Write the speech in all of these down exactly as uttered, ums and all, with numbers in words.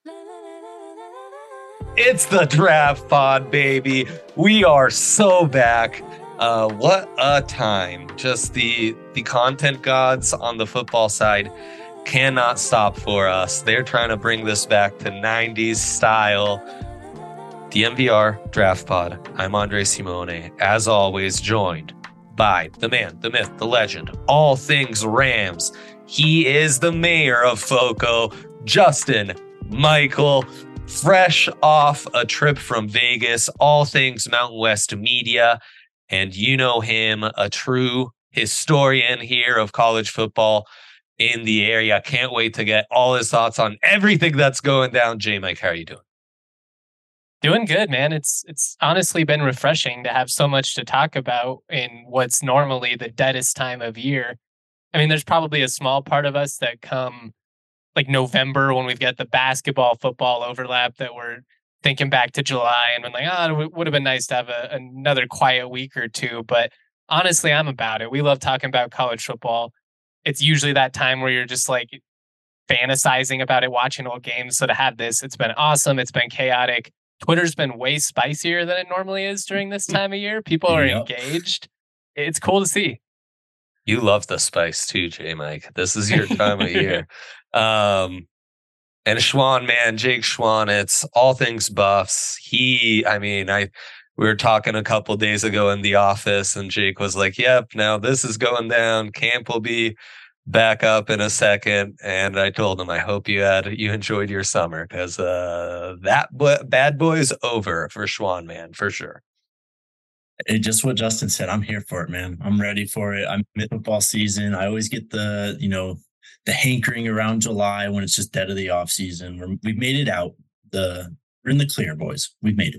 It's the Draft Pod, baby. We are so back. Uh, what a time. Just the the content gods on the football side cannot stop for us. They're trying to bring this back to nineties style. The M V R Draft Pod. I'm Andre Simone, as always, joined by the man, the myth, the legend, all things Rams. He is the mayor of FOCO, Justin Michael, fresh off a trip from Vegas, all things Mountain West media. And you know him, a true historian here of college football in the area. Can't wait to get all his thoughts on everything that's going down. J Mike, how are you doing? Doing good, man. It's it's honestly been refreshing to have so much to talk about in what's normally the deadest time of year. I mean, there's probably a small part of us that come like November when we've got the basketball football overlap that we're thinking back to July and been like, oh, it would have been nice to have a, another quiet week or two. But honestly, I'm about it. We love talking about college football. It's usually that time where you're just like fantasizing about it, watching old games. So to have this, it's been awesome. It's been chaotic. Twitter's been way spicier than it normally is during this time of year. People are yep. engaged. It's cool to see. You love the spice too, J Mike. This is your time of year. Um, and Schwan, man, Jake Schwan, it's all things Buffs. He, I mean, I we were talking a couple days ago in the office, and Jake was like, "Yep, now this is going down. Camp will be back up in a second." And I told him, "I hope you had you enjoyed your summer because uh, that bo- bad boy's over for Schwan, man, for sure." It just what Justin said. I'm here for it, man. I'm ready for it. I'm in football season. I always get the, you know, the hankering around July when it's just dead of the off season. We're, we've made it out. The we're in the clear, boys. We've made it.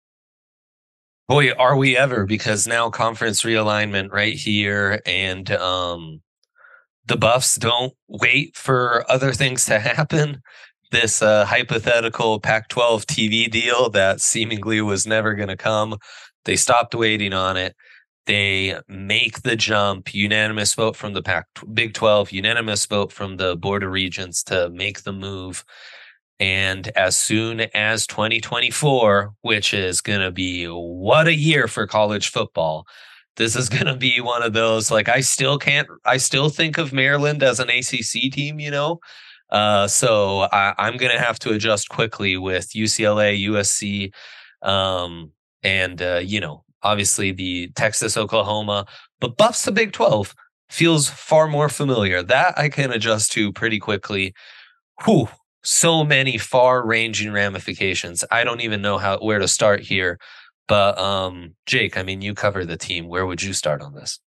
Boy, are we ever? Because now conference realignment right here, and um, the Buffs don't wait for other things to happen. This uh, hypothetical Pac twelve T V deal that seemingly was never going to come. They stopped waiting on it. They make the jump. Unanimous vote from the Pac Big twelve, unanimous vote from the Board of Regents to make the move. And as soon as twenty twenty-four, which is going to be what a year for college football, this is going to be one of those, like, I still can't, I still think of Maryland as an A C C team, you know? Uh, so I, I'm going to have to adjust quickly with U C L A, U S C, um, and, uh, you know, obviously the Texas, Oklahoma, but Buffs to Big twelve feels far more familiar. That I can adjust to pretty quickly. Whew, so many far-ranging ramifications. I don't even know how where to start here. But um, Jake, I mean, you cover the team. Where would you start on this?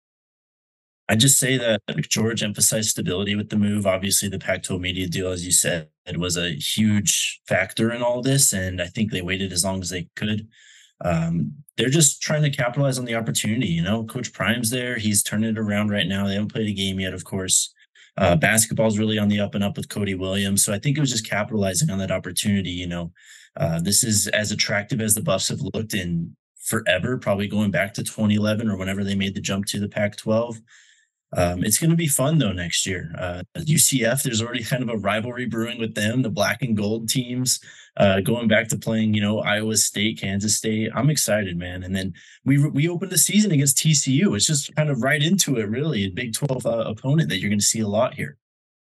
I just say that George emphasized stability with the move. Obviously, the Pac twelve media deal, as you said, was a huge factor in all this, and I think they waited as long as they could. Um, they're just trying to capitalize on the opportunity. You know, Coach Prime's there. He's turning it around right now. They haven't played a game yet, of course. Uh, basketball's really on the up and up with Cody Williams. So I think it was just capitalizing on that opportunity. You know, uh, this is as attractive as the Buffs have looked in forever, probably going back to twenty eleven or whenever they made the jump to the Pac twelve. Um, it's going to be fun, though, next year. Uh, U C F, there's already kind of a rivalry brewing with them, the black and gold teams, uh, going back to playing, you know, Iowa State, Kansas State. I'm excited, man. And then we we opened the season against T C U. It's just kind of right into it, really, a Big twelve uh, opponent that you're going to see a lot here.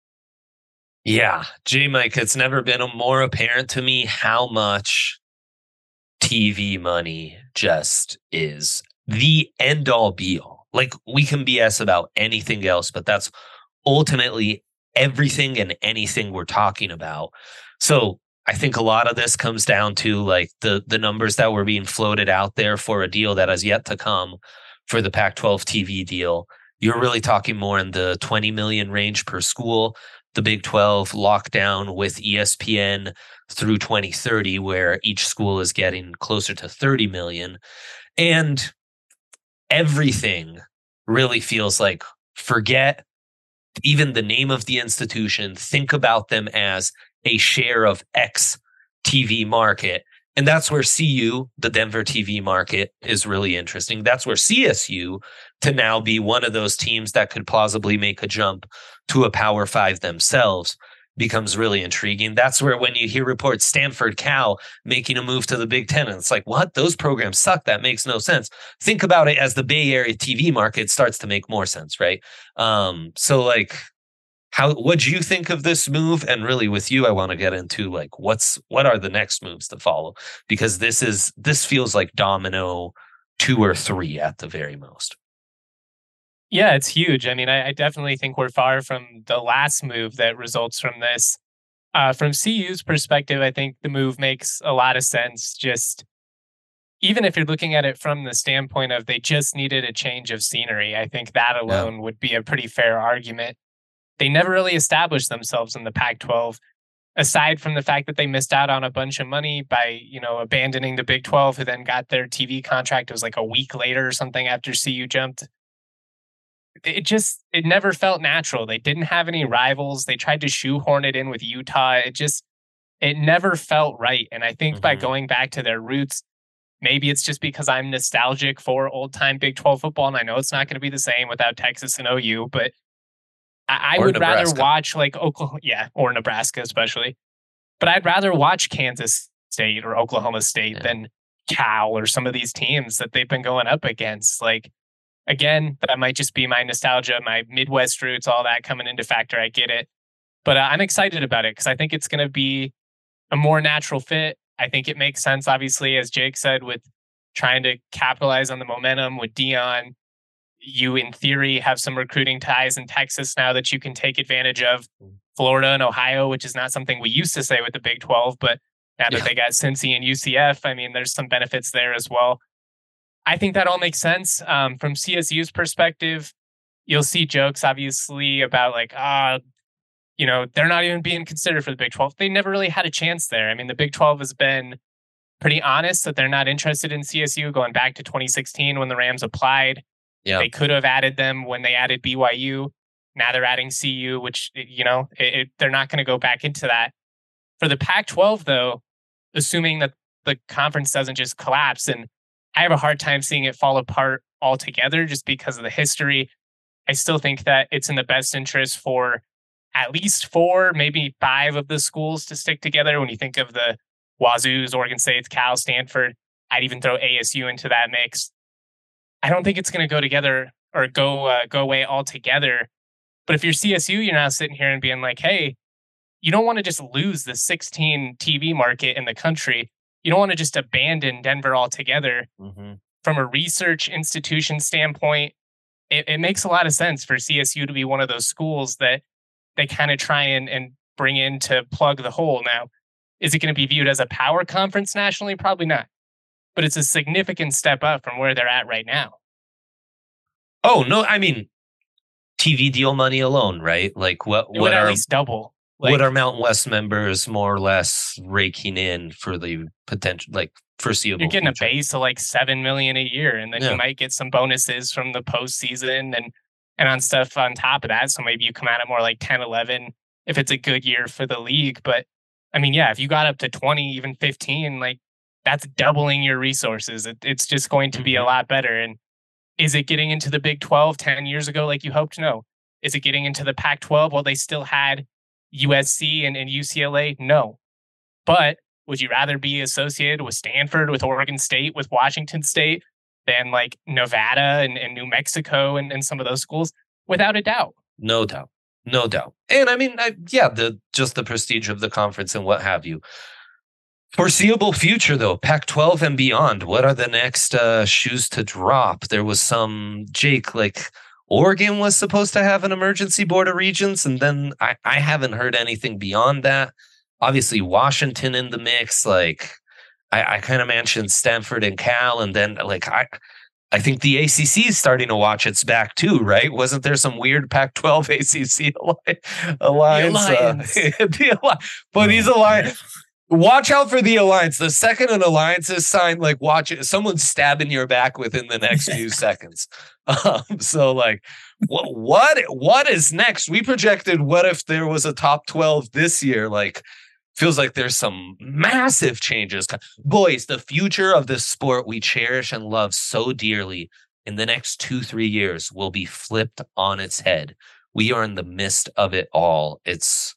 Yeah, J Mike, it's never been more apparent to me how much T V money just is the end all be all. Like, we can B S about anything else, but that's ultimately everything and anything we're talking about. So I think a lot of this comes down to like the the numbers that were being floated out there for a deal that has yet to come for the Pac twelve T V deal. You're really talking more in the twenty million range per school. The Big twelve lockdown with E S P N through twenty thirty, where each school is getting closer to thirty million. And everything really feels like, forget even the name of the institution, think about them as a share of X T V market. And that's where C U, the Denver T V market, is really interesting. That's where C S U, to now be one of those teams that could plausibly make a jump to a Power Five themselves, becomes really intriguing. That's where when you hear reports Stanford, Cal making a move to the Big Ten, and it's like, what? Those programs suck. That makes no sense. Think about it as the Bay Area T V market starts to make more sense, right? Um, so like, how what do you think of this move? And really with you, I want to get into like what's what are the next moves to follow? Because this is this feels like domino two or three at the very most. Yeah, it's huge. I mean, I, I definitely think we're far from the last move that results from this. Uh, from C U's perspective, I think the move makes a lot of sense. Just even if you're looking at it from the standpoint of they just needed a change of scenery, I think that alone yeah. would be a pretty fair argument. They never really established themselves in the Pac twelve, aside from the fact that they missed out on a bunch of money by, you know, abandoning the Big twelve, who then got their T V contract. It was like a week later or something after C U jumped. It just, it never felt natural. They didn't have any rivals. They tried to shoehorn it in with Utah. It just, it never felt right. And I think mm-hmm. by going back to their roots, maybe it's just because I'm nostalgic for old time Big twelve football. And I know it's not going to be the same without Texas and O U, but I, I would Nebraska. rather watch like Oklahoma, yeah, or Nebraska especially. But I'd rather watch Kansas State or Oklahoma State yeah. than Cal or some of these teams that they've been going up against. Like, again, that might just be my nostalgia, my Midwest roots, all that coming into factor. I get it. But uh, I'm excited about it because I think it's going to be a more natural fit. I think it makes sense, obviously, as Jake said, with trying to capitalize on the momentum with Deion. You, in theory, have some recruiting ties in Texas now that you can take advantage of. Florida and Ohio, which is not something we used to say with the Big twelve, but now that yeah. they got Cincy and U C F, I mean, there's some benefits there as well. I think that all makes sense. Um, from C S U's perspective, you'll see jokes, obviously, about like, ah, uh, you know, they're not even being considered for the Big twelve. They never really had a chance there. I mean, the Big twelve has been pretty honest that they're not interested in C S U going back to twenty sixteen when the Rams applied. Yeah. They could have added them when they added B Y U. Now they're adding C U, which, you know, it, it, they're not going to go back into that. For the Pac twelve, though, assuming that the conference doesn't just collapse, and I have a hard time seeing it fall apart altogether just because of the history. I still think that it's in the best interest for at least four, maybe five of the schools to stick together. When you think of the Wazoo's, Oregon State's, Cal, Stanford, I'd even throw A S U into that mix. I don't think it's going to go together or go uh, go away altogether. But if you're C S U, you're now sitting here and being like, hey, you don't want to just lose the sixteen T V market in the country. You don't want to just abandon Denver altogether. Mm-hmm. From a research institution standpoint, it, it makes a lot of sense for C S U to be one of those schools that they kind of try and, and bring in to plug the hole. Now, is it going to be viewed as a power conference nationally? Probably not. But it's a significant step up from where they're at right now. Oh, no, I mean, T V deal money alone, right? Like what, it what would are, at least double. Like, what are Mountain West members more or less raking in for the potential, like foreseeable You're getting future? A base of like seven million a year, and then yeah. you might get some bonuses from the postseason and, and on stuff on top of that. So maybe you come out at more like ten, eleven if it's a good year for the league. But I mean, yeah, if you got up to twenty, even fifteen, like that's doubling your resources. It, it's just going to be mm-hmm. a lot better. And is it getting into the Big twelve ten years ago like you hoped? No. Is it getting into the Pac twelve while they still had U S C and, and U C L A? No. But would you rather be associated with Stanford, with Oregon State, with Washington State than like Nevada and, and New Mexico and, and some of those schools? Without a doubt. No doubt. No doubt. And I mean, I, yeah, the just the prestige of the conference and what have you. Foreseeable future, though, Pac twelve and beyond. What are the next uh, shoes to drop? There was some, Jake, like Oregon was supposed to have an emergency board of regents, and then I, I haven't heard anything beyond that. Obviously, Washington in the mix. Like I, I kind of mentioned Stanford and Cal, and then like I, I think the A C C is starting to watch its back too, right? Wasn't there some weird Pac twelve A C C alliance? The alliance. Uh, the alliance. But these alliance. Watch out for the alliance. The second an alliance is signed, like watch it. Someone's stabbing your back within the next few seconds. Um, so like, what, what, what is next? We projected, what if there was a top twelve this year? Like, feels like there's some massive changes. Boys, the future of this sport we cherish and love so dearly in the next two, three years will be flipped on its head. We are in the midst of it all. It's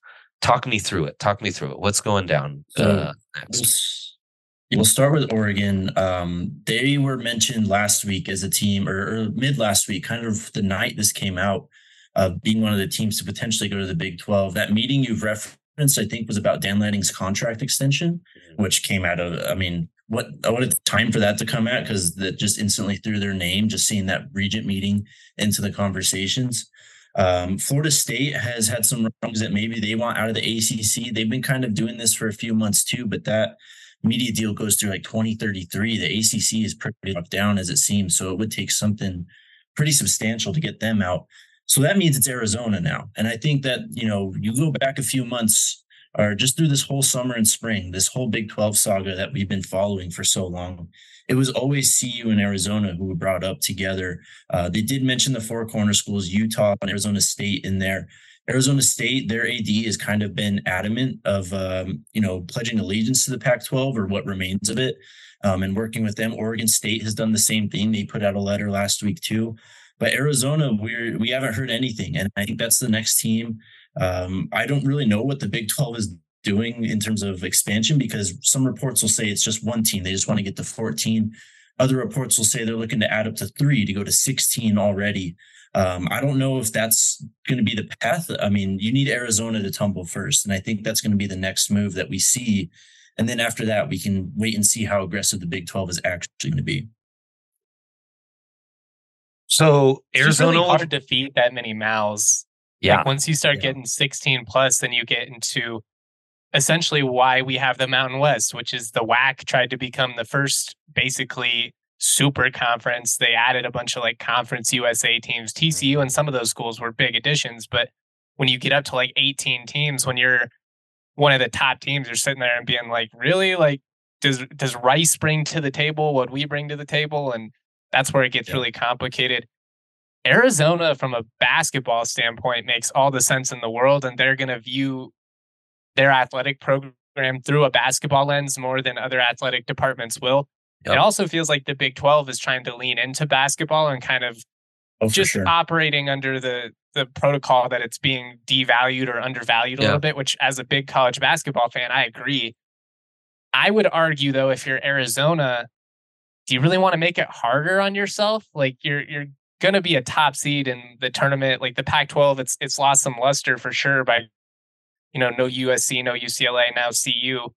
talk me through it. Talk me through it. What's going down So uh, we'll, next? s- we'll start with Oregon. Um, they were mentioned last week as a team, or, or mid last week, kind of the night this came out, uh, being one of the teams to potentially go to the Big twelve. That meeting you've referenced, I think, was about Dan Lanning's contract extension, which came out of, I mean, what what a time for that to come at, because that just instantly threw their name, just seeing that Regent meeting into the conversations. Um, Florida State has had some wrongs that maybe they want out of the A C C. They've been kind of doing this for a few months too, but that media deal goes through like twenty thirty-three. The A C C is pretty locked down as it seems, so it would take something pretty substantial to get them out. So that means it's Arizona now. And I think that, you know, you go back a few months or just through this whole summer and spring, this whole Big twelve saga that we've been following for so long, it was always C U and Arizona who were brought up together. Uh, they did mention the four corner schools, Utah and Arizona State in there. Arizona State, their A D has kind of been adamant of, um, you know, pledging allegiance to the Pac twelve or what remains of it, um, and working with them. Oregon State has done the same thing. They put out a letter last week too. But Arizona, we're we haven't heard anything, and I think that's the next team. Um, I don't really know what the Big twelve is doing in terms of expansion, because some reports will say it's just one team. They just want to get to fourteen. Other reports will say they're looking to add up to three to go to sixteen already. Um, I don't know if that's going to be the path. I mean, you need Arizona to tumble first, and I think that's going to be the next move that we see. And then after that, we can wait and see how aggressive the Big twelve is actually going to be. So It's just Arizona, really hard to feed that many mouths. yeah, Like once you start Yeah. getting sixteen plus, then you get into essentially why we have the Mountain West, which is the W A C tried to become the first basically super conference. They added a bunch of like conference U S A teams. T C U and some of those schools were big additions, but when you get up to like eighteen teams, when you're one of the top teams, you're sitting there and being like, really? Like, does does Rice bring to the table what we bring to the table? And that's where it gets Yeah. really complicated. Arizona, from a basketball standpoint, makes all the sense in the world, and they're going to view their athletic program through a basketball lens more than other athletic departments will. Yep. It also feels like the Big twelve is trying to lean into basketball and kind of Oh, for just sure. operating under the the protocol that it's being devalued or undervalued a Yeah. little bit, which as a big college basketball fan, I agree. I would argue though, if you're Arizona, do you really want to make it harder on yourself? Like you're you're gonna be a top seed in the tournament. Like the Pac twelve, it's it's lost some luster for sure by, you know, no U S C, no U C L A, now C U.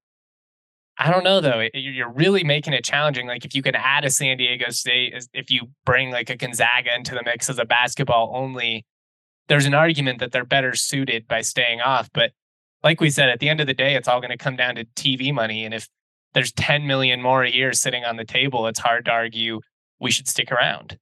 I don't know though. It- You're really making it challenging. Like if you can add a San Diego State, as- if you bring like a Gonzaga into the mix as a basketball only, there's an argument that they're better suited by staying off. But like we said, at the end of the day, it's all going to come down to T V money. And if there's ten million more a year sitting on the table, it's hard to argue we should stick around.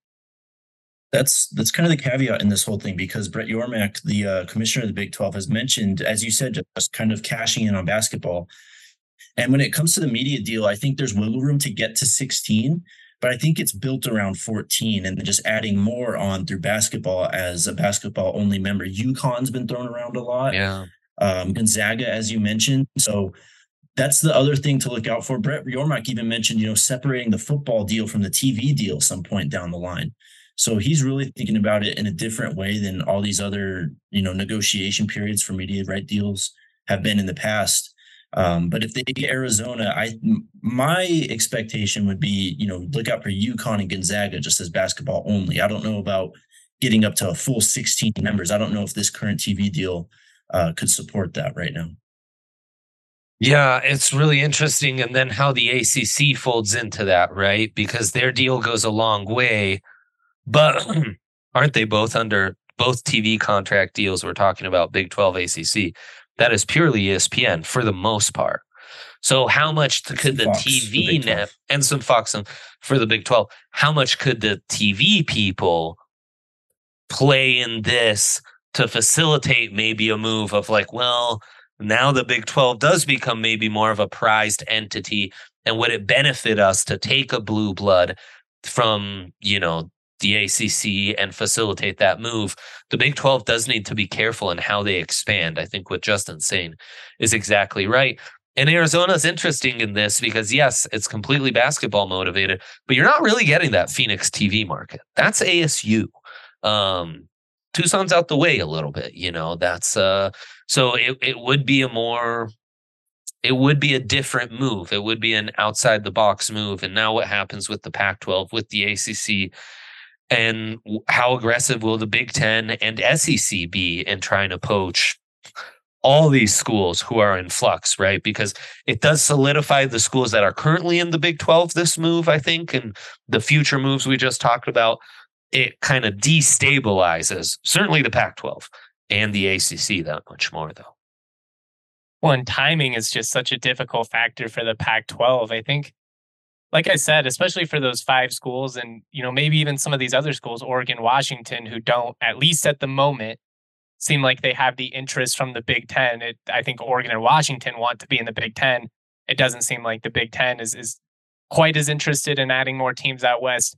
That's that's kind of the caveat in this whole thing, because Brett Yormark, the uh, commissioner of the Big twelve, has mentioned, as you said, just kind of cashing in on basketball. And when it comes to the media deal, I think there's wiggle room to get to sixteen, but I think it's built around fourteen and then just adding more on through basketball as a basketball only member. UConn's been thrown around a lot. yeah, Um, Gonzaga, as you mentioned. So that's the other thing to look out for. Brett Yormark even mentioned, you know, separating the football deal from the T V deal some point down the line. So he's really thinking about it in a different way than all these other, you know, negotiation periods for media right deals have been in the past. Um, but if they get Arizona, I my expectation would be, you know, look out for UConn and Gonzaga just as basketball only. I don't know about getting up to a full sixteen members. I don't know if this current T V deal uh, could support that right now. yeah, it's really interesting. And then how the A C C folds into that, right? Because their deal goes a long way, but aren't they both under both T V contract deals? We're talking about Big twelve, A C C. That is purely E S P N for the most part. So how much And could some the Fox T for V Big net twelve. and some Fox and- for the Big twelve? How much could the T V people play in this to facilitate maybe a move of like, well, now the Big twelve does become maybe more of a prized entity, and would it benefit us to take a blue blood from, you know, the A C C and facilitate that move? The Big twelve does need to be careful in how they expand. I think what Justin's saying is exactly right. And Arizona's interesting in this because, yes, it's completely basketball motivated, but you're not really getting that Phoenix T V market. That's A S U. Um, Tucson's out the way a little bit, you know. That's uh so it, it would be a more it would be a different move. It would be an outside the box move. And now what happens with the Pac twelve, with the A C C, and how aggressive will the Big Ten and S E C be in trying to poach all these schools who are in flux, right? Because it does solidify the schools that are currently in the Big twelve, this move, I think, and the future moves we just talked about. It kind of destabilizes certainly the Pac twelve and the A C C that much more, though. Well, and timing is just such a difficult factor for the Pac twelve. I think, like I said, especially for those five schools and, you know, maybe even some of these other schools, Oregon, Washington, who don't, at least at the moment, seem like they have the interest from the Big Ten. It, I think Oregon and Washington want to be in the Big Ten. It doesn't seem like the Big Ten is, is quite as interested in adding more teams out west.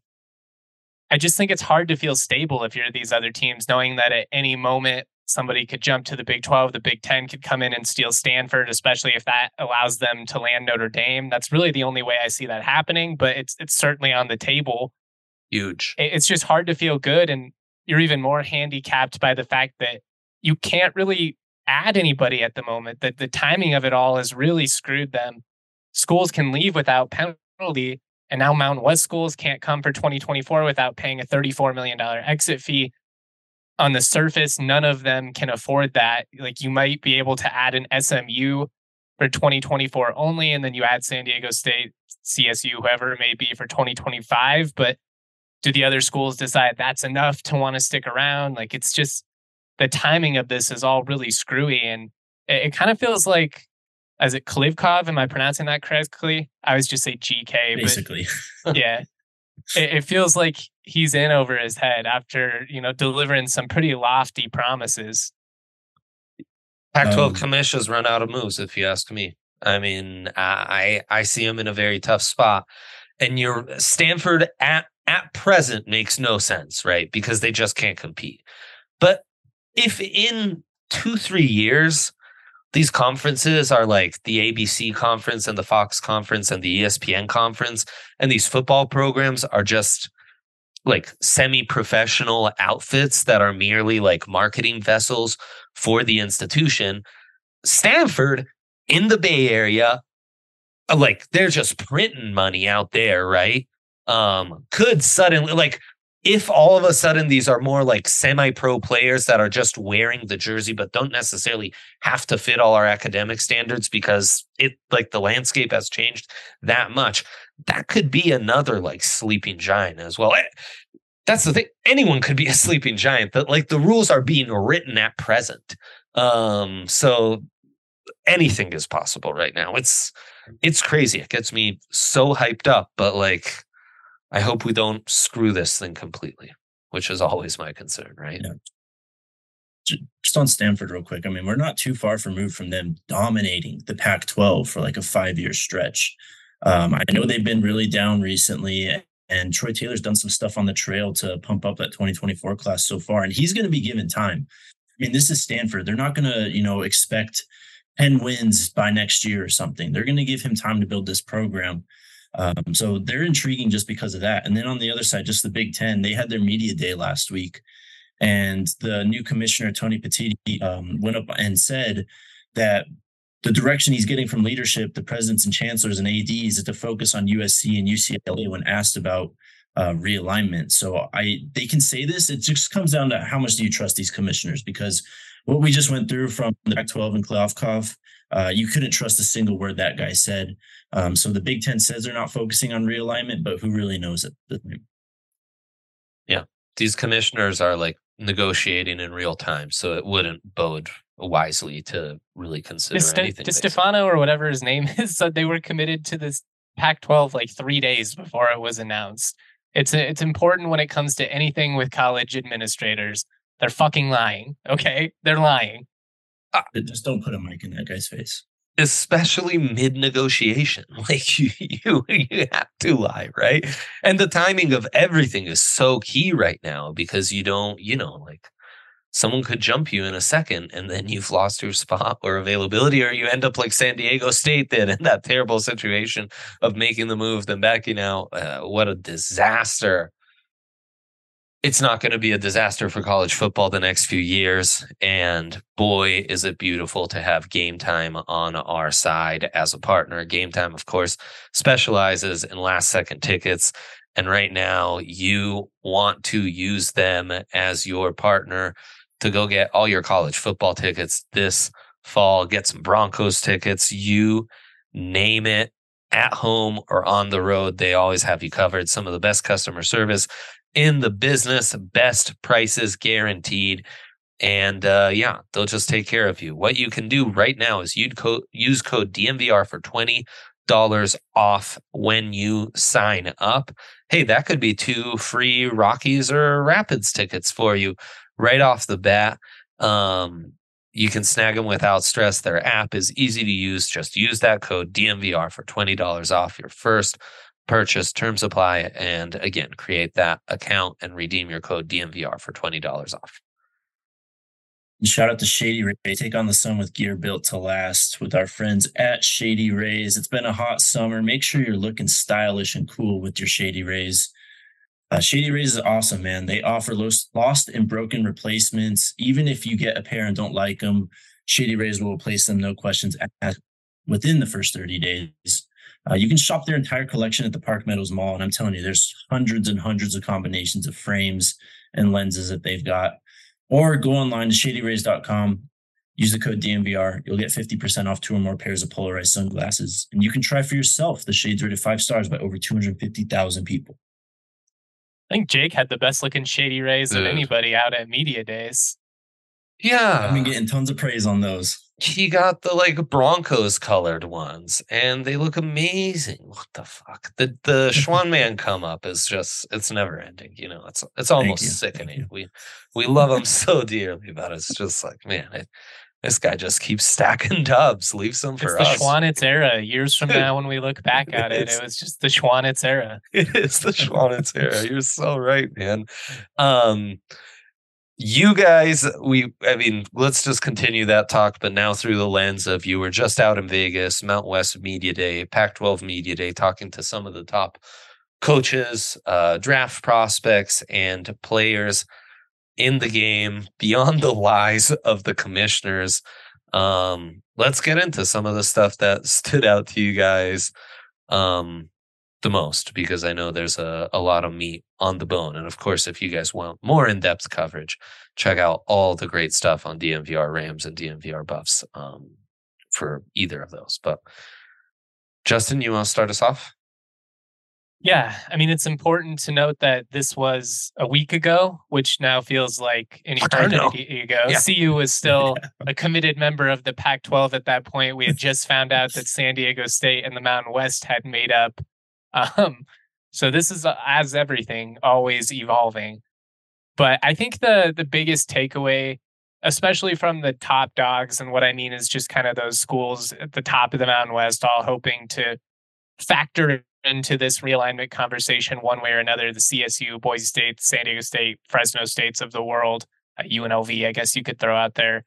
I just think it's hard to feel stable if you're these other teams, knowing that at any moment somebody could jump to the Big twelve, the Big Ten could come in and steal Stanford, especially if that allows them to land Notre Dame. That's really the only way I see that happening, but it's it's certainly on the table. Huge. It's just hard to feel good, and you're even more handicapped by the fact that you can't really add anybody at the moment. That the timing of it all has really screwed them. Schools can leave without penalty. And now Mountain West schools can't come for twenty twenty-four without paying a thirty-four million dollars exit fee. On the surface, none of them can afford that. Like, you might be able to add an S M U for twenty twenty-four only, and then you add San Diego State, C S U, whoever it may be, for twenty twenty-five. But do the other schools decide that's enough to want to stick around? Like, it's just, the timing of this is all really screwy. And it, it kind of feels like, is it Klivkov? Am I pronouncing that correctly? I always just say G K. Basically. But yeah. It, it feels like he's in over his head after, you know, delivering some pretty lofty promises. Pac twelve Um, commissions run out of moves, if you ask me. I mean, I I see him in a very tough spot. And your Stanford at, at present makes no sense, right? Because they just can't compete. But if in two, three years, these conferences are like the A B C conference and the Fox conference and the E S P N conference, and these football programs are just like semi-professional outfits that are merely like marketing vessels for the institution. Stanford in the Bay Area, like, they're just printing money out there, right? Um, could suddenly, like, if all of a sudden these are more like semi-pro players that are just wearing the jersey but don't necessarily have to fit all our academic standards because it, like, the landscape has changed that much, that could be another like sleeping giant as well. That's the thing. Anyone could be a sleeping giant. That, like, the rules are being written at present. Um, so anything is possible right now. It's it's crazy. It gets me so hyped up, but like, I hope we don't screw this thing completely, which is always my concern, right? Yeah. Just on Stanford real quick. I mean, we're not too far removed from them dominating the Pac twelve for like a five-year stretch. Um, I know they've been really down recently, and Troy Taylor's done some stuff on the trail to pump up that twenty twenty-four class so far, and he's going to be given time. I mean, this is Stanford. They're not going to, you know, expect ten wins by next year or something. They're going to give him time to build this program. Um, so they're intriguing just because of that. And then on the other side, just the Big Ten, they had their media day last week, and the new commissioner, Tony Petitti, um, went up and said that the direction he's getting from leadership, the presidents and chancellors and A Ds, is to focus on U S C and U C L A when asked about uh, realignment. So I, they can say this. It just comes down to how much do you trust these commissioners? Because what we just went through from the Pac twelve and Klivkov, uh, you couldn't trust a single word that guy said. Um, so the Big Ten says they're not focusing on realignment, but who really knows it? Yeah. These commissioners are like negotiating in real time, so it wouldn't bode wisely to really consider Just anything. Stefano, or whatever his name is, said they were committed to this Pac twelve like three days before it was announced. It's a, it's important when it comes to anything with college administrators. They're fucking lying. Okay, they're lying. Uh, just don't put a mic in that guy's face. Especially mid-negotiation. Like, you, you, you have to lie, right? And the timing of everything is so key right now because you don't, you know, like, someone could jump you in a second and then you've lost your spot or availability, or you end up like San Diego State did in that terrible situation of making the move, then backing out. Uh, what a disaster. it's not going to be a disaster for college football the next few years. And boy, is it beautiful to have Game Time on our side as a partner. Game Time, of course, specializes in last second tickets. And right now, you want to use them as your partner to go get all your college football tickets this fall, get some Broncos tickets, you name it, at home or on the road. They always have you covered. Some of the best customer service in the business, best prices guaranteed. And uh, yeah, they'll just take care of you. What you can do right now is you'd co- use code D M V R for twenty dollars off when you sign up. Hey, that could be two free Rockies or Rapids tickets for you right off the bat. Um, you can snag them without stress. Their app is easy to use. Just use that code D M V R for twenty dollars off your first purchase. Terms apply. And again, create that account and redeem your code D M V R for twenty dollars off. And shout out to Shady Ray. Take on the sun with gear built to last with our friends at Shady Rays. It's been a hot summer. Make sure you're looking stylish and cool with your Shady Rays. Uh, Shady Rays is awesome, man. They offer lost, lost and broken replacements. Even if you get a pair and don't like them, Shady Rays will replace them, no questions asked, within the first thirty days. Uh, you can shop their entire collection at the Park Meadows Mall. And I'm telling you, there's hundreds and hundreds of combinations of frames and lenses that they've got. Or go online to shady rays dot com, use the code D M V R. You'll get fifty percent off two or more pairs of polarized sunglasses. And you can try for yourself the shades rated five stars by over two hundred fifty thousand people. I think Jake had the best looking Shady Rays Dude. of anybody out at Media Days. Yeah. I've been getting tons of praise on those. He got the like Broncos colored ones and they look amazing. What the fuck? The the Schwan Man come up is just, it's never ending. You know, it's it's almost you. sickening. We we love him so dearly, but it's just like, man, it, this guy just keeps stacking dubs, leaves them for it's us. the Schwanitz era. Years from now, when we look back at it, It's- it was just the Schwanitz era. It is the Schwanitz era. You're so right, man. Um You guys, we, I mean, let's just continue that talk, but now through the lens of you were just out in Vegas, Mountain West Media Day, Pac twelve Media Day, talking to some of the top coaches, uh, draft prospects, and players in the game beyond the lies of the commissioners. Um, let's get into some of the stuff that stood out to you guys um, the most, because I know there's a, a lot of meat on the bone. And of course, if you guys want more in-depth coverage, check out all the great stuff on D M V R Rams and D M V R Buffs um, for either of those. But Justin, you want to start us off? Yeah, I mean, it's important to note that this was a week ago, which now feels like an eternity ago. Yeah. C U was still a committed member of the Pac twelve at that point. We had just found out that San Diego State and the Mountain West had made up. Um, so this is, uh, as everything, always evolving. But I think the the biggest takeaway, especially from the top dogs, and what I mean is just kind of those schools at the top of the Mountain West, all hoping to factor into this realignment conversation one way or another, the C S U, Boise State, San Diego State, Fresno States of the world, uh, U N L V, I guess you could throw out there.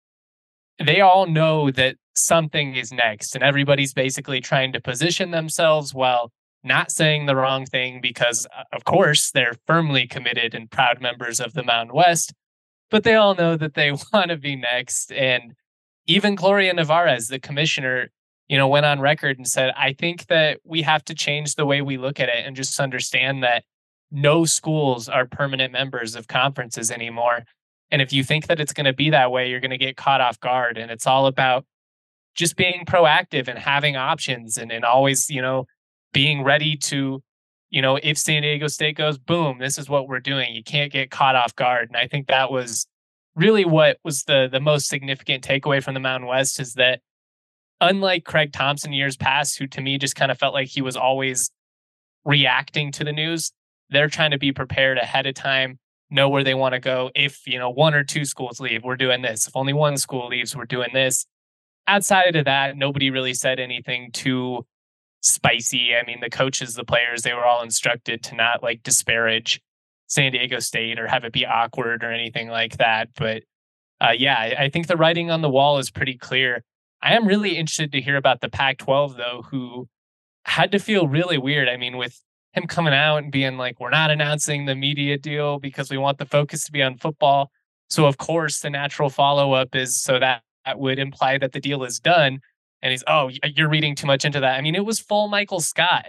They all know that something is next, and everybody's basically trying to position themselves while not saying the wrong thing because, of course, they're firmly committed and proud members of the Mountain West, but they all know that they want to be next. And even Gloria Nevarez, the commissioner, you know, went on record and said, I think that we have to change the way we look at it and just understand that no schools are permanent members of conferences anymore. And if you think that it's going to be that way, you're going to get caught off guard. And it's all about just being proactive and having options and, and always, you know, being ready to, you know, if San Diego State goes, boom, this is what we're doing. You can't get caught off guard. And I think that was really what was the the most significant takeaway from the Mountain West, is that unlike Craig Thompson years past, who to me just kind of felt like he was always reacting to the news, they're trying to be prepared ahead of time, know where they want to go. If, you know, one or two schools leave, we're doing this. If only one school leaves, we're doing this. Outside of that, nobody really said anything too spicy. I mean, the coaches, the players, they were all instructed to not like disparage San Diego State or have it be awkward or anything like that. But uh, yeah, I, I think the writing on the wall is pretty clear. I am really interested to hear about the Pac twelve, though, who had to feel really weird. I mean, with him coming out and being like, we're not announcing the media deal because we want the focus to be on football. So, of course, the natural follow up is so that, that would imply that the deal is done. And he's, oh, you're reading too much into that. I mean, it was full Michael Scott.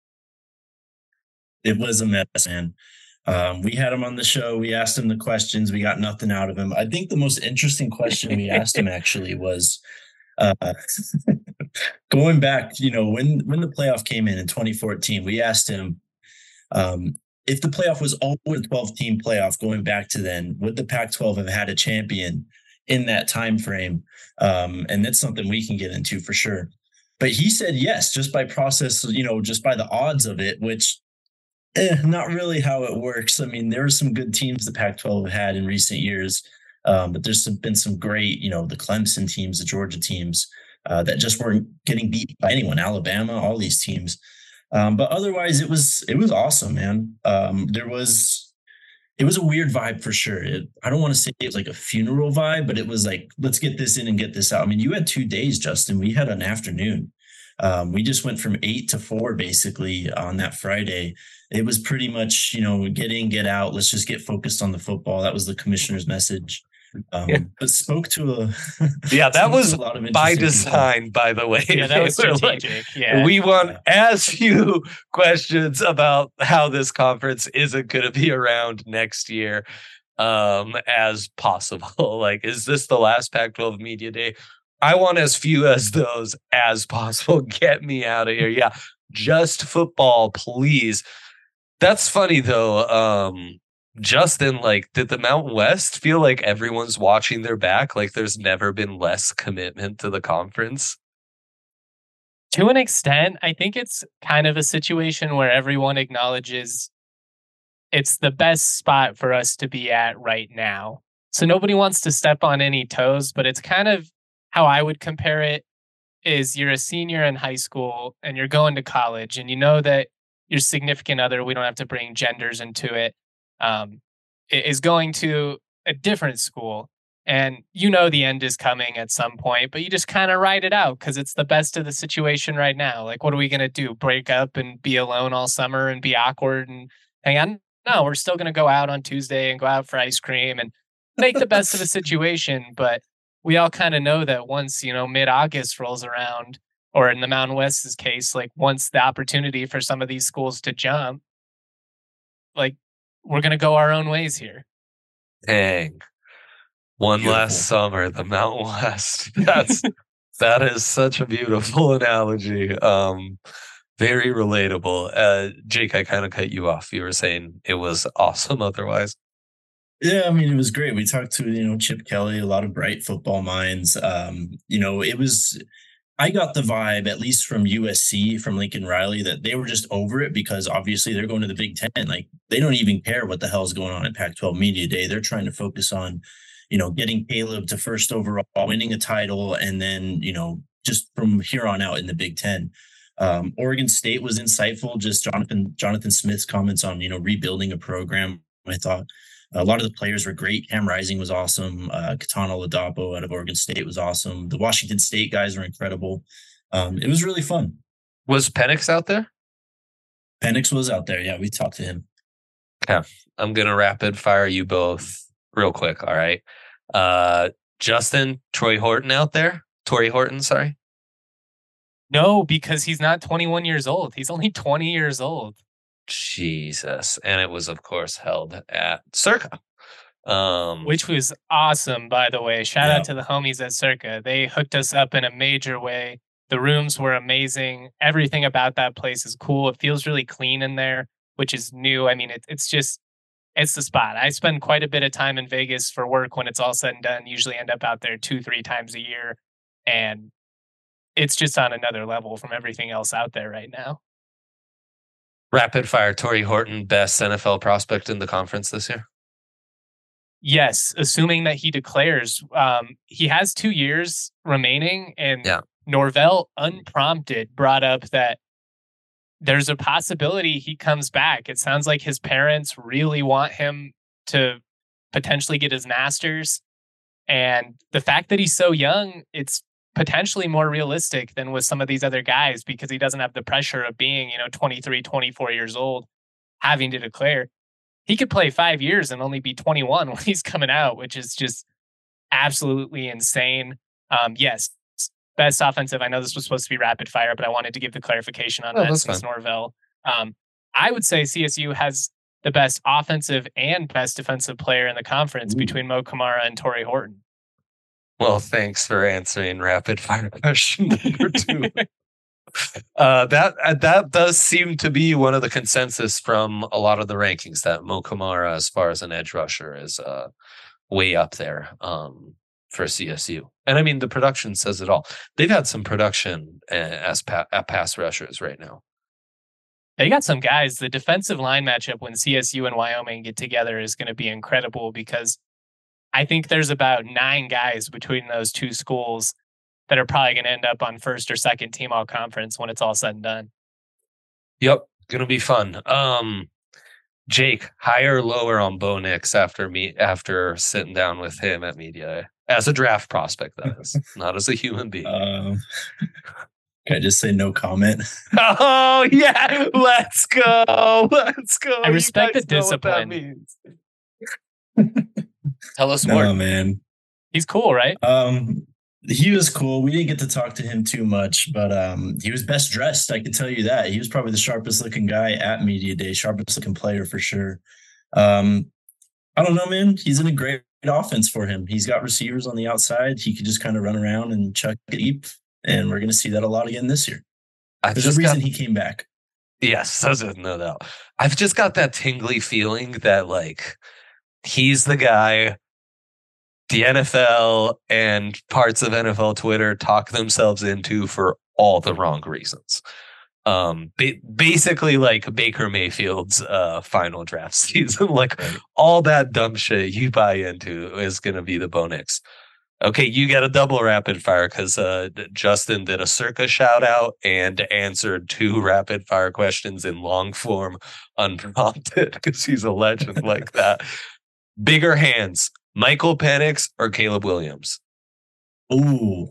It was a mess, man. Um, we had him on the show. We asked him the questions. We got nothing out of him. I think the most interesting question we asked him actually was uh, going back, you know, when, when the playoff came in in twenty fourteen, we asked him um, if the playoff was always a twelve team playoff going back to then, would the Pac twelve have had a champion in that time frame? Um, and that's something we can get into for sure. But he said yes, just by process, you know, just by the odds of it, which Eh, not really how it works. I mean, there are some good teams the Pac twelve had in recent years, um, but there's some, been some great, you know, the Clemson teams, the Georgia teams uh, that just weren't getting beat by anyone. Alabama, all these teams. Um, but otherwise, it was it was awesome, man. Um, there was it was a weird vibe for sure. It, I don't want to say it was like a funeral vibe, but it was like, let's get this in and get this out. I mean, you had two days, Justin. We had an afternoon. Um, we just went from eight to four basically on that Friday. It was pretty much, you know, get in, get out. Let's just get focused on the football. That was the commissioner's message. Um, yeah. But spoke to a yeah, that was a lot of by design, people. By the way. Yeah, that was strategic. Like, yeah, we want yeah. as few questions about how this conference isn't going to be around next year um, as possible. Like, is this the last Pac twelve media day? I want as few as those as possible. Get me out of here. Yeah, just football, please. That's funny, though. Um, Justin, like, did the Mountain West feel like everyone's watching their back? Like, there's never been less commitment to the conference? To an extent, I think it's kind of a situation where everyone acknowledges it's the best spot for us to be at right now. So nobody wants to step on any toes, but it's kind of how I would compare it is you're a senior in high school and you're going to college and you know that your significant other, we don't have to bring genders into it, um, is going to a different school. And you know the end is coming at some point, but you just kind of ride it out because it's the best of the situation right now. Like, what are we going to do? Break up and be alone all summer and be awkward and hang on? No, we're still going to go out on Tuesday and go out for ice cream and make the best of the situation. But we all kind of know that once, you know, mid-August rolls around, or in the Mountain West's case, like once the opportunity for some of these schools to jump, like we're going to go our own ways here. Dang. One beautiful. Last summer, the Mountain West. That's that is such a beautiful analogy. Um, very relatable. Uh, Jake, I kind of cut you off. You were saying it was awesome otherwise. Yeah, I mean, it was great. We talked to, you know, Chip Kelly, a lot of bright football minds. Um, you know, it was, I got the vibe, at least from U S C, from Lincoln Riley, that they were just over it because obviously they're going to the Big Ten. Like, they don't even care what the hell's going on at Pac twelve Media Day. They're trying to focus on, you know, getting Caleb to first overall, winning a title, and then, you know, just from here on out in the Big Ten. Um, Oregon State was insightful. Just Jonathan, Jonathan Smith's comments on, you know, rebuilding a program, I thought. A lot of the players were great. Cam Rising was awesome. Uh, Katana Ladapo out of Oregon State was awesome. The Washington State guys were incredible. Um, it was really fun. Was Penix out there? Penix was out there. Yeah, we talked to him. Okay. I'm going to rapid fire you both real quick. All right. Uh, Justin, Troy Horton out there? Tory Horton, sorry. No, because he's not twenty-one years old. He's only twenty years old. Jesus. And it was, of course, held at Circa. Um, Which was awesome, by the way. Shout yeah. out to the homies at Circa. They hooked us up in a major way. The rooms were amazing. Everything about that place is cool. It feels really clean in there, which is new. I mean, it, it's just, it's the spot. I spend quite a bit of time in Vegas for work when it's all said and done. Usually end up out there two, three times a year. And it's just on another level from everything else out there right now. Rapid fire, Tory Horton, best N F L prospect in the conference this year? Yes, assuming that he declares. Um, he has two years remaining, and yeah. Norvell, unprompted, brought up that there's a possibility he comes back. It sounds like his parents really want him to potentially get his master's. And the fact that he's so young, it's potentially more realistic than with some of these other guys because he doesn't have the pressure of being, you know, twenty-three, twenty-four years old, having to declare. He could play five years and only be twenty-one when he's coming out, which is just absolutely insane. Um, yes, best offensive. I know this was supposed to be rapid fire, but I wanted to give the clarification on Oh, that that's since fine. Norvell. Um, I would say C S U has the best offensive and best defensive player in the conference Ooh. between Mo Kamara and Torrey Horton. Well, thanks for answering rapid fire question number two. uh, that uh, that does seem to be one of the consensus from a lot of the rankings that Mo Kamara, as far as an edge rusher, is uh, way up there um, for C S U. And I mean, the production says it all. They've had some production uh, as pa- at pass rushers right now. They got some guys. The defensive line matchup when C S U and Wyoming get together is going to be incredible because I think there's about nine guys between those two schools that are probably going to end up on first or second team all conference when it's all said and done. Yep, gonna be fun. Um, Jake, higher or lower on Bo Nix after me after sitting down with him at media as a draft prospect, that is, not as a human being. Um, can I just say no comment? Oh yeah, let's go, let's go. I respect You the guys know what that discipline. means. Tell us more. No, man. He's cool, right? Um, he was cool. We didn't get to talk to him too much, but um, he was best dressed. I can tell you that. He was probably the sharpest looking guy at media day, sharpest looking player for sure. Um, I don't know, man. He's in a great offense for him. He's got receivers on the outside. He could just kind of run around and chuck it deep, and we're going to see that a lot again this year. I've There's just a reason got, he came back. yes, there's no doubt. I've just got that tingly feeling that like he's the guy the N F L and parts of N F L Twitter talk themselves into for all the wrong reasons. Um, ba- basically like Baker Mayfield's uh, final draft season, like Right. all that dumb shit you buy into is going to be the Bo Nix. Okay, you get a double rapid fire because uh, Justin did a circa shout out and answered two rapid fire questions in long form unprompted because he's a legend like that. Bigger hands, Michael Penix or Caleb Williams? Ooh.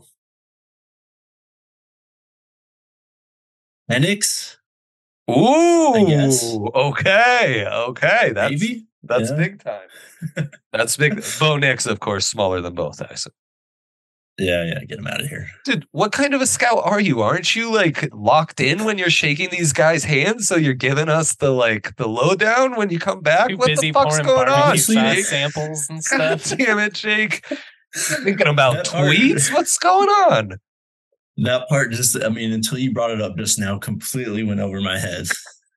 Penix? Ooh, I guess. okay, okay, that's Maybe? that's Yeah. big time. That's big. Bo Nix, of course, smaller than both. I said, Yeah, yeah, get him out of here. dude, what kind of a scout are you? Aren't you like locked in when you're shaking these guys' hands? So you're giving us the like the lowdown when you come back. Too What busy the fuck's pouring going on, barbecue sauce Jake? samples and God stuff. damn it, Jake! Thinking about That part- tweets. What's going on? That part just, I mean, until you brought it up just now, completely went over my head.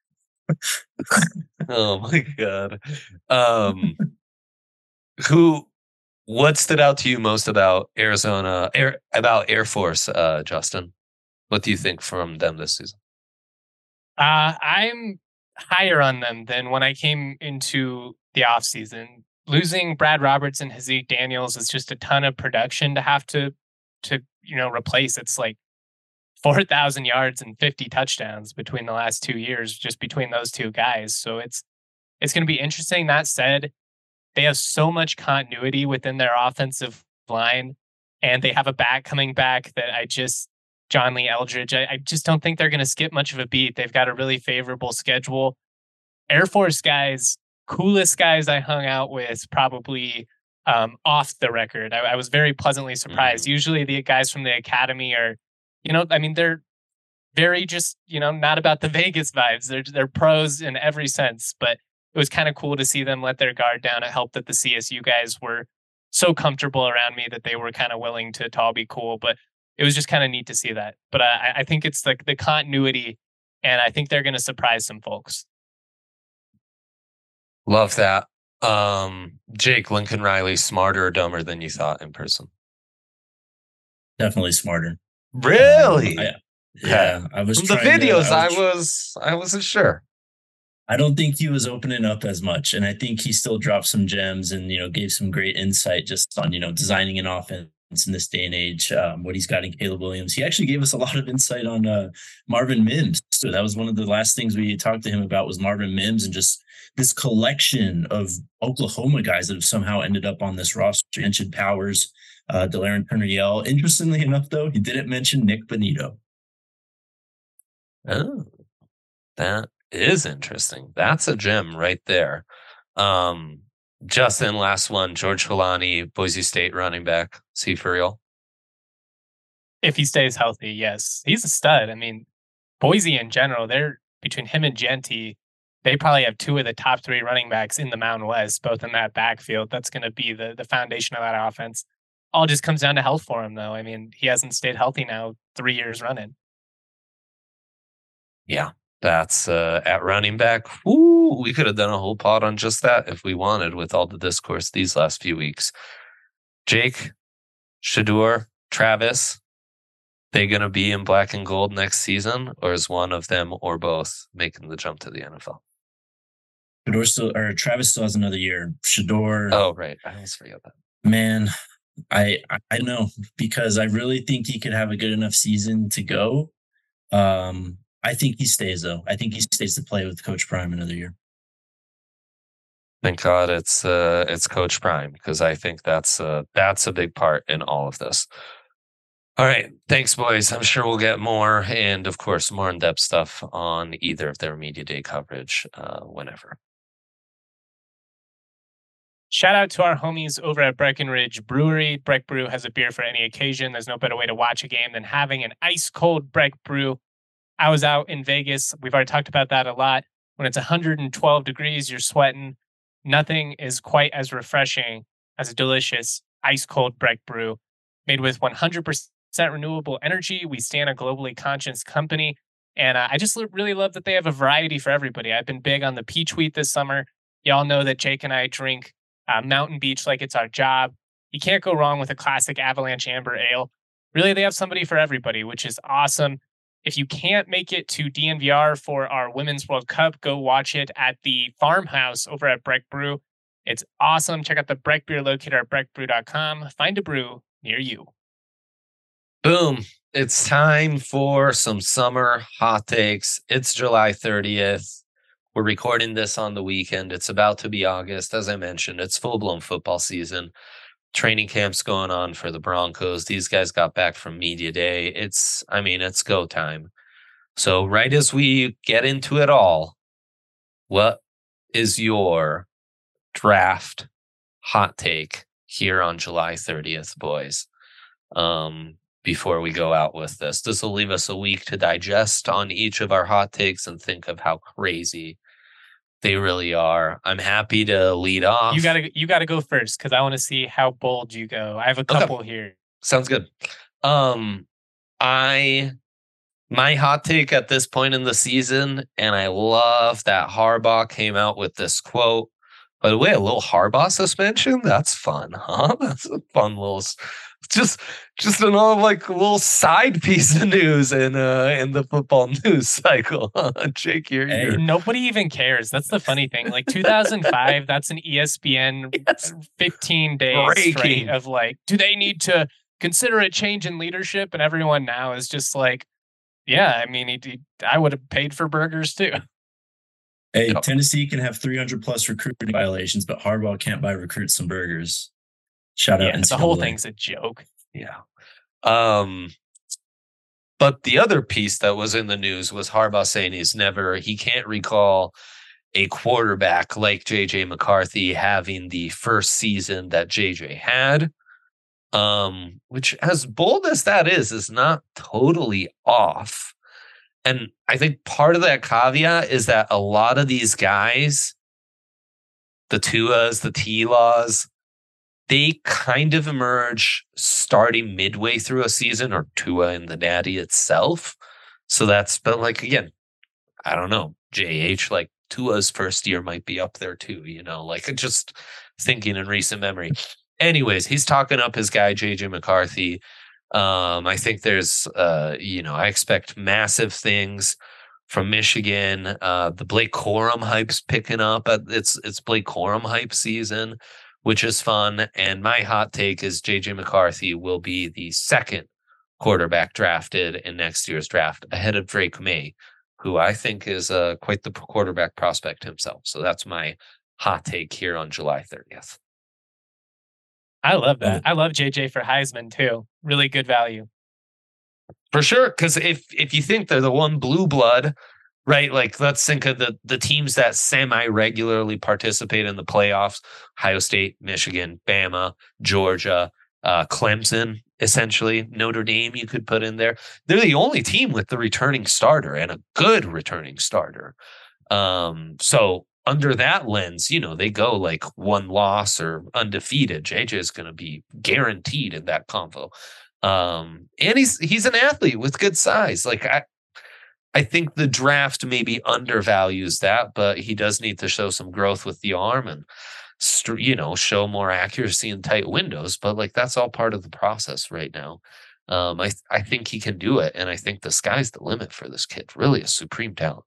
Oh my god. Um, who? What stood out to you most about Arizona? Air, about Air Force, uh, Justin? What do you think from them this season? Uh, I'm higher on them than when I came into the offseason. Losing Brad Roberts and Hazik Daniels is just a ton of production to have to, to you know, replace. It's like four thousand yards and fifty touchdowns between the last two years, just between those two guys. So it's it's going to be interesting. That said, they have so much continuity within their offensive line, and they have a back coming back that I just, John Lee Eldridge, I, I just don't think they're going to skip much of a beat. They've got a really favorable schedule. Air Force guys, coolest guys I hung out with, probably um, off the record. I, I was very pleasantly surprised. Mm. Usually the guys from the academy are, you know, I mean, they're very just, you know, not about the Vegas vibes. They're they're pros in every sense, but it was kind of cool to see them let their guard down. It helped that the C S U guys were so comfortable around me that they were kind of willing to, to all be cool. But it was just kind of neat to see that. But I, I think it's like the continuity, and I think they're going to surprise some folks. Love that. Um, Jake, Lincoln Riley, smarter or dumber than you thought in person? Definitely smarter. Really? Um, I, yeah, I was From the trying to- videos, I I was, was I wasn't sure. I don't think he was opening up as much, and I think he still dropped some gems and, you know, gave some great insight just on, you know, designing an offense in this day and age. Um, what he's got in Caleb Williams. He actually gave us a lot of insight on uh, Marvin Mims. So that was one of the last things we talked to him about was Marvin Mims and just this collection of Oklahoma guys that have somehow ended up on this roster. Mentioned Powers, uh, De'Aaron Turner-Yell. Interestingly enough, though, he didn't mention Nick Bonito. Oh, that is interesting. That's a gem right there. Um, Justin, last one. George Holani, Boise State running back. Is he for real? If he stays healthy, yes. He's a stud. I mean, Boise in general, they're between him and Genty, they probably have two of the top three running backs in the Mountain West, both in that backfield. That's going to be the the foundation of that offense. All just comes down to health for him, though. I mean, he hasn't stayed healthy now three years running. Yeah, that's uh, at running back. Woo, we could have done a whole pod on just that if we wanted with all the discourse these last few weeks. Jake, Shedeur, Travis, they going to be in black and gold next season, or is one of them or both making the jump to the N F L? Shedeur still, or Travis still has another year. Shedeur. Oh, right. I always forget that. Man, I I know because I really think he could have a good enough season to go. Um, I think he stays though. I think he stays to play with Coach Prime another year. Thank God it's uh, it's Coach Prime, because I think that's uh, that's a big part in all of this. All right. Thanks, boys. I'm sure we'll get more and, of course, more in-depth stuff on either of their media day coverage uh, whenever. Shout out to our homies over at Breckenridge Brewery. Breck Brew has a beer for any occasion. There's no better way to watch a game than having an ice-cold Breck Brew. I was out in Vegas. We've already talked about that a lot. When it's one hundred twelve degrees, you're sweating. Nothing is quite as refreshing as a delicious ice-cold Breck Brew made with one hundred percent renewable energy. We stand a globally conscious company. And uh, I just really love that they have a variety for everybody. I've been big on the peach wheat this summer. Y'all know that Jake and I drink uh, Mountain Beach like it's our job. You can't go wrong with a classic Avalanche Amber Ale. Really, they have somebody for everybody, which is awesome. If you can't make it to D N V R for our Women's World Cup, go watch it at the farmhouse over at Breck Brew. It's awesome. Check out the Breck Beer locator at breck brew dot com. Find a brew near you. Boom. It's time for some summer hot takes. It's July thirtieth. We're recording this on the weekend. It's about to be August. As I mentioned, it's full-blown football season. Training camp's going on for the Broncos. These guys got back from media day. It's, I mean, it's go time. So right as we get into it all, what is your draft hot take here on July thirtieth, boys? Um, before we go out with this, this will leave us a week to digest on each of our hot takes and think of how crazy they really are. I'm happy to lead off. You gotta you gotta go first because I want to see how bold you go. I have a couple okay. here. Sounds good. Um, I my hot take at this point in the season, and I love that Harbaugh came out with this quote. By the way, a little Harbaugh suspension? That's fun, huh? That's a fun little, just just another like little side piece of news in uh in the football news cycle. Jake, you're, hey, you're nobody even cares. That's the funny thing. Like two thousand five, that's an E S P N yes. fifteen days straight of like, do they need to consider a change in leadership? And everyone now is just like, yeah, I mean, he, he, I would have paid for burgers too. Hey, yep. Tennessee can have three hundred plus recruiting violations, but Harbaugh can't buy recruits some burgers. Shout out. Yeah, the whole thing's a joke. Yeah. Um, but the other piece that was in the news was Harbaugh saying he's never, he can't recall a quarterback like J J McCarthy having the first season that J J had. Um, which, as bold as that is, is not totally off. And I think part of that caveat is that a lot of these guys, the Tuas, the T-Laws, they kind of emerge starting midway through a season, or Tua and the Natty itself. So that's, but like, again, I don't know, J H, like Tua's first year might be up there too, you know, like just thinking in recent memory. Anyways, he's talking up his guy, J J McCarthy. Um, I think there's, uh, you know, I expect massive things from Michigan. Uh, the Blake Corum hype's picking up. It's it's Blake Corum hype season, which is fun. And my hot take is J J McCarthy will be the second quarterback drafted in next year's draft, ahead of Drake May, who I think is uh, quite the quarterback prospect himself. So that's my hot take here on July thirtieth. I love Love that. it. I love J J for Heisman too. Really good value. For sure. Because if if you think they're the one blue blood, right? Like let's think of the the teams that semi-regularly participate in the playoffs: Ohio State, Michigan, Bama, Georgia, uh, Clemson, essentially Notre Dame. You could put in there. They're the only team with the returning starter and a good returning starter. Um, so under that lens, you know, they go like one loss or undefeated. J J is going to be guaranteed in that convo. Um, and he's he's an athlete with good size. Like I, I think the draft maybe undervalues that, but he does need to show some growth with the arm and, you know, show more accuracy in tight windows. But like that's all part of the process right now. Um, I I think he can do it, and I think the sky's the limit for this kid. Really, a supreme talent.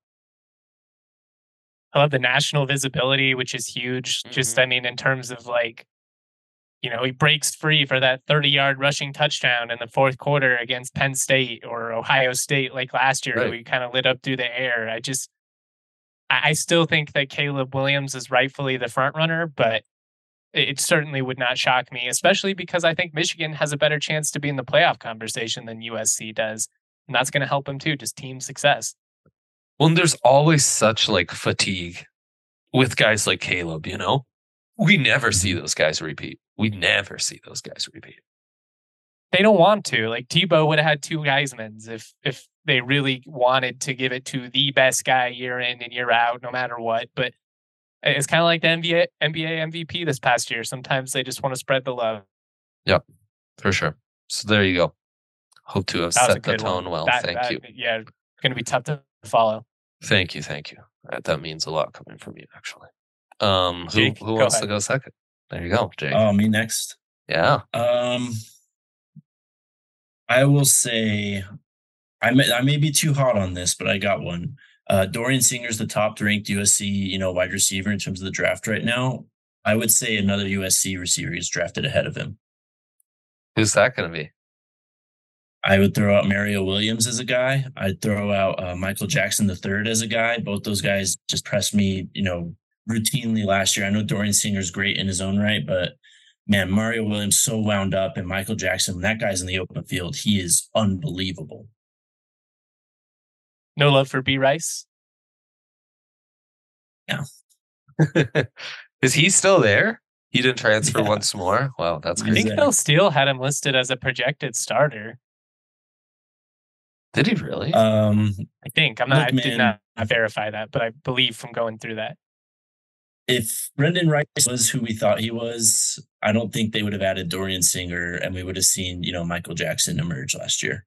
I love the national visibility, which is huge. Mm-hmm. Just, I mean, in terms of like, you know, he breaks free for that thirty-yard rushing touchdown in the fourth quarter against Penn State or Ohio State like last year, Right. where he kind of lit up through the air. I just, I, I still think that Caleb Williams is rightfully the front runner, but it, it certainly would not shock me, especially because I think Michigan has a better chance to be in the playoff conversation than U S C does. And that's going to help him too, just team success. Well, and there's always such like fatigue with guys like Caleb, you know? We never see those guys repeat. We never see those guys repeat. They don't want to. Like Tebow would have had two Heismans if if they really wanted to give it to the best guy year in and year out, no matter what. But it's kind of like the N B A N B A M V P this past year. Sometimes they just want to spread the love. Yep, for sure. So there you go. Hope to have That was a set the good tone one. well. That- Thank that- you. Yeah, going to be tough to follow. Thank you. Thank you. That, that means a lot coming from you, actually. Um, who Jake, who go wants ahead. to go second? There you go, Jake. Oh, me next. yeah. Um, I will say, I may, I may be too hot on this, but I got one. Uh, Dorian Singer's the top ranked U S C, you know, wide receiver in terms of the draft right now. I would say another U S C receiver is drafted ahead of him. Who's that going to be? I would throw out Mario Williams as a guy. I'd throw out uh, Michael Jackson the third as a guy. Both those guys just pressed me, you know, routinely last year. I know Dorian Singer's great in his own right, but man, Mario Williams so wound up, and Michael Jackson, when that guy's in the open field, he is unbelievable. No love for B Rice. Yeah. Is he still there? He didn't transfer Yeah. once more. Wow, that's I He's crazy. think there. Phil Steele had him listed as a projected starter. Did he really? Um, I think I'm not. Look, I did man. not verify that, but I believe from going through that. if Brendan Rice was who we thought he was, I don't think they would have added Dorian Singer, and we would have seen, you know, Michael Jackson emerge last year.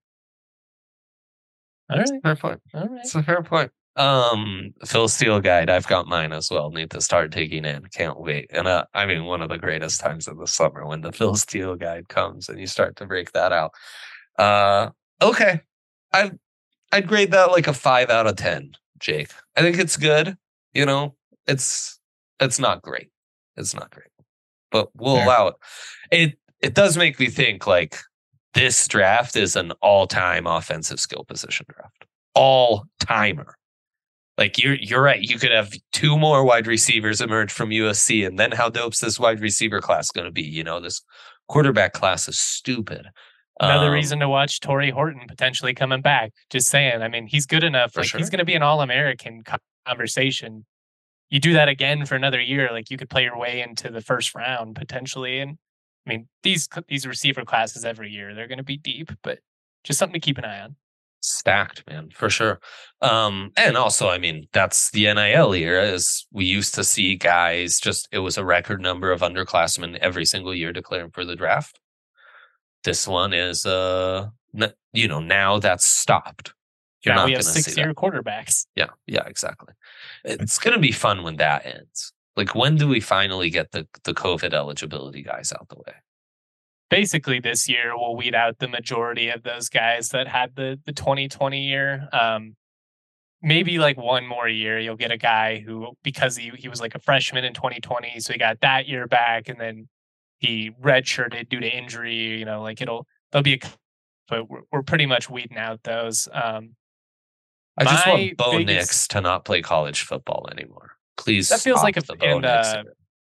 All right. Fair point. All right. It's a fair point. Um, Phil Steele guide. I've got mine as well. Need to start taking in. Can't wait. And uh, I mean, one of the greatest times of the summer when the Phil Steele guide comes and you start to break that out. Uh, okay, I I'd grade that like a five out of ten. Jake, I think it's good. You know, it's it's not great. It's not great, but we'll Fair. allow it. It it does make me think like this draft is an all time offensive skill position draft. All timer. Like you're you're right. You could have two more wide receivers emerge from U S C, and then how dope's this wide receiver class going to be? You know, this quarterback class is stupid. Another Um, reason to watch Torrey Horton potentially coming back. Just saying. I mean, he's good enough. For Like sure. he's going to be an All-American co- conversation. You do that again for another year, like you could play your way into the first round potentially. And I mean, these these receiver classes every year, they're going to be deep, but just something to keep an eye on. stacked, man, for sure. Um, and also, I mean, that's the N I L era. Is we used to see guys just it was a record number of underclassmen every single year declaring for the draft. This one is, uh, n- you know, now that's stopped. You're now not we going have to see that. six-year quarterbacks. Yeah, yeah, exactly. It's going to be fun when that ends. Like, when do we finally get the the COVID eligibility guys out the way? Basically, this year we'll weed out the majority of those guys that had the the twenty twenty year. Um, maybe like one more year, you'll get a guy who, because he he was like a freshman in twenty twenty, so he got that year back, and then he redshirted due to injury. You know, like it'll there'll be a, but we're, we're pretty much weeding out those. Um, I just My want Bo biggest- Nix to not play college football anymore. Please, That feels stop like a- the Bo and, Nix uh, era.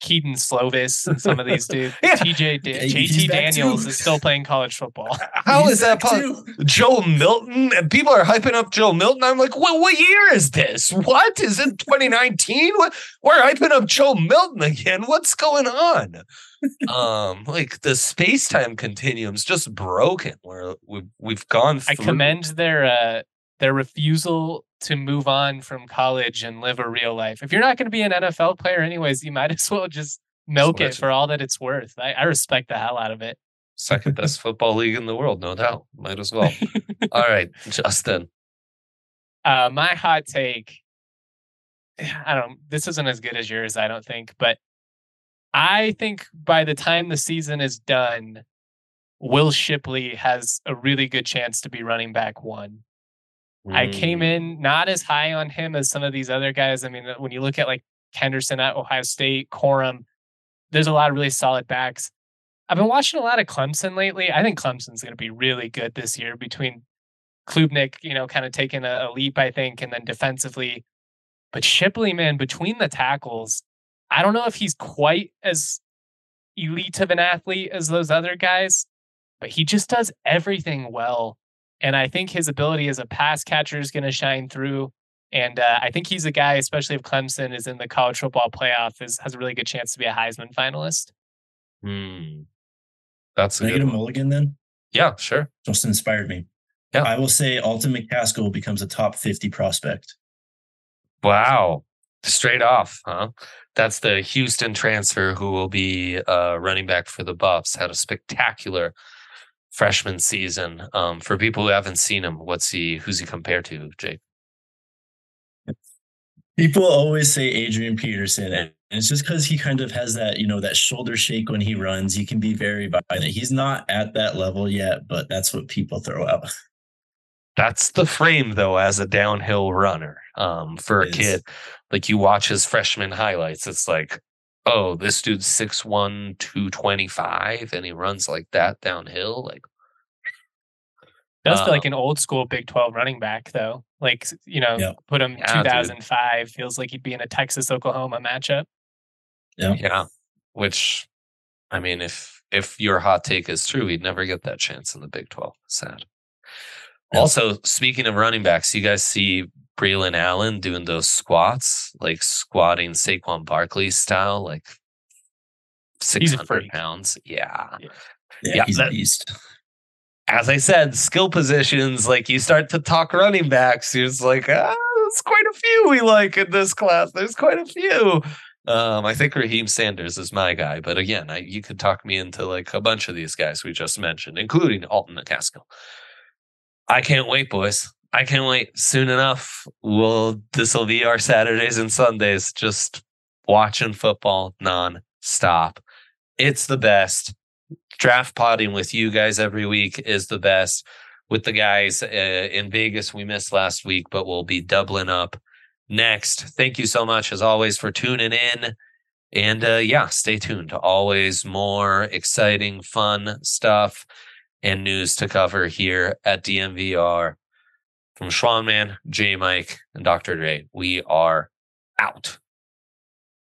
Keaton Slovis and some of these dudes. Yeah. T J Da- He's J T back Daniels too. is still playing college football. How He's is that back possible? too. Joe Milton, and people are hyping up Joe Milton. I'm like, what? What year is this? What is it? twenty nineteen? What? We're hyping up Joe Milton again. What's going on? um, like the space time continuum's just broken. Where we've we've gone. Through. I commend their uh, their refusal to move on from college and live a real life. If you're not going to be an N F L player, anyways, you might as well just milk Switch it for all that it's worth. I, I respect the hell out of it. Second best football league in the world, no doubt. Might as well. All right, Justin. Uh, my hot take. I don't. This isn't as good as yours, I don't think, but I think by the time the season is done, Will Shipley has a really good chance to be running back one. I came in not as high on him as some of these other guys. I mean, when you look at like Henderson at Ohio State, Corum, there's a lot of really solid backs. I've been watching a lot of Clemson lately. I think Clemson's going to be really good this year between Klubnik, you know, kind of taking a, a leap, I think, and then defensively. But Shipley, man, between the tackles, I don't know if he's quite as elite of an athlete as those other guys, but he just does everything well. And I think his ability as a pass catcher is going to shine through. And uh, I think he's a guy, especially if Clemson is in the college football playoff, is, has a really good chance to be a Heisman finalist. Hmm. That's a Can I good get a one. mulligan then? Yeah, sure. Just inspired me. Yeah. I will say Alton McCaskill becomes a top fifty prospect. Wow. Straight off, huh? That's the Houston transfer who will be uh, running back for the Buffs. Had a spectacular freshman season. Um, for people who haven't seen him, what's he? Who's he compared to, Jake? People always say Adrian Peterson, and it's just because he kind of has that, you know, that shoulder shake when he runs. He can be very violent. He's not at that level yet, but that's what people throw out. That's the frame, though, as a downhill runner. Um, for a It is. kid, like you watch his freshman highlights, it's like, oh, this dude's six one, two twenty-five, and he runs like that downhill. Like, Does feel Uh, like an old school Big twelve running back, though. Like, you know, Yeah. put him Yeah, dude. two thousand five. Feels like he'd be in a Texas Oklahoma matchup. Yeah. yeah. Which, I mean, if if your hot take is true, he'd never get that chance in the Big twelve. Sad. Yeah. Also, speaking of running backs, you guys see Braylon Allen doing those squats, like squatting Saquon Barkley style, like six hundred freak. pounds. Yeah. Yeah, Yeah, he's that- a beast. As I said, skill positions, like you start to talk running backs, you're just like, ah, there's quite a few we like in this class. There's quite a few. Um, I think Raheem Sanders is my guy, but again, I, you could talk me into like a bunch of these guys we just mentioned, including Alton McCaskill. I can't wait, boys. I can't wait. Soon enough, we'll this will be our Saturdays and Sundays, just watching football non-stop. It's the best. Draft potting with you guys every week is the best. With the guys uh, in Vegas, we missed last week, but we'll be doubling up next. Thank you so much, as always, for tuning in. And uh, yeah, stay tuned. Always more exciting, fun stuff and news to cover here at D M V R. From Schwanman, J Mike, and Doctor Dre, we are out.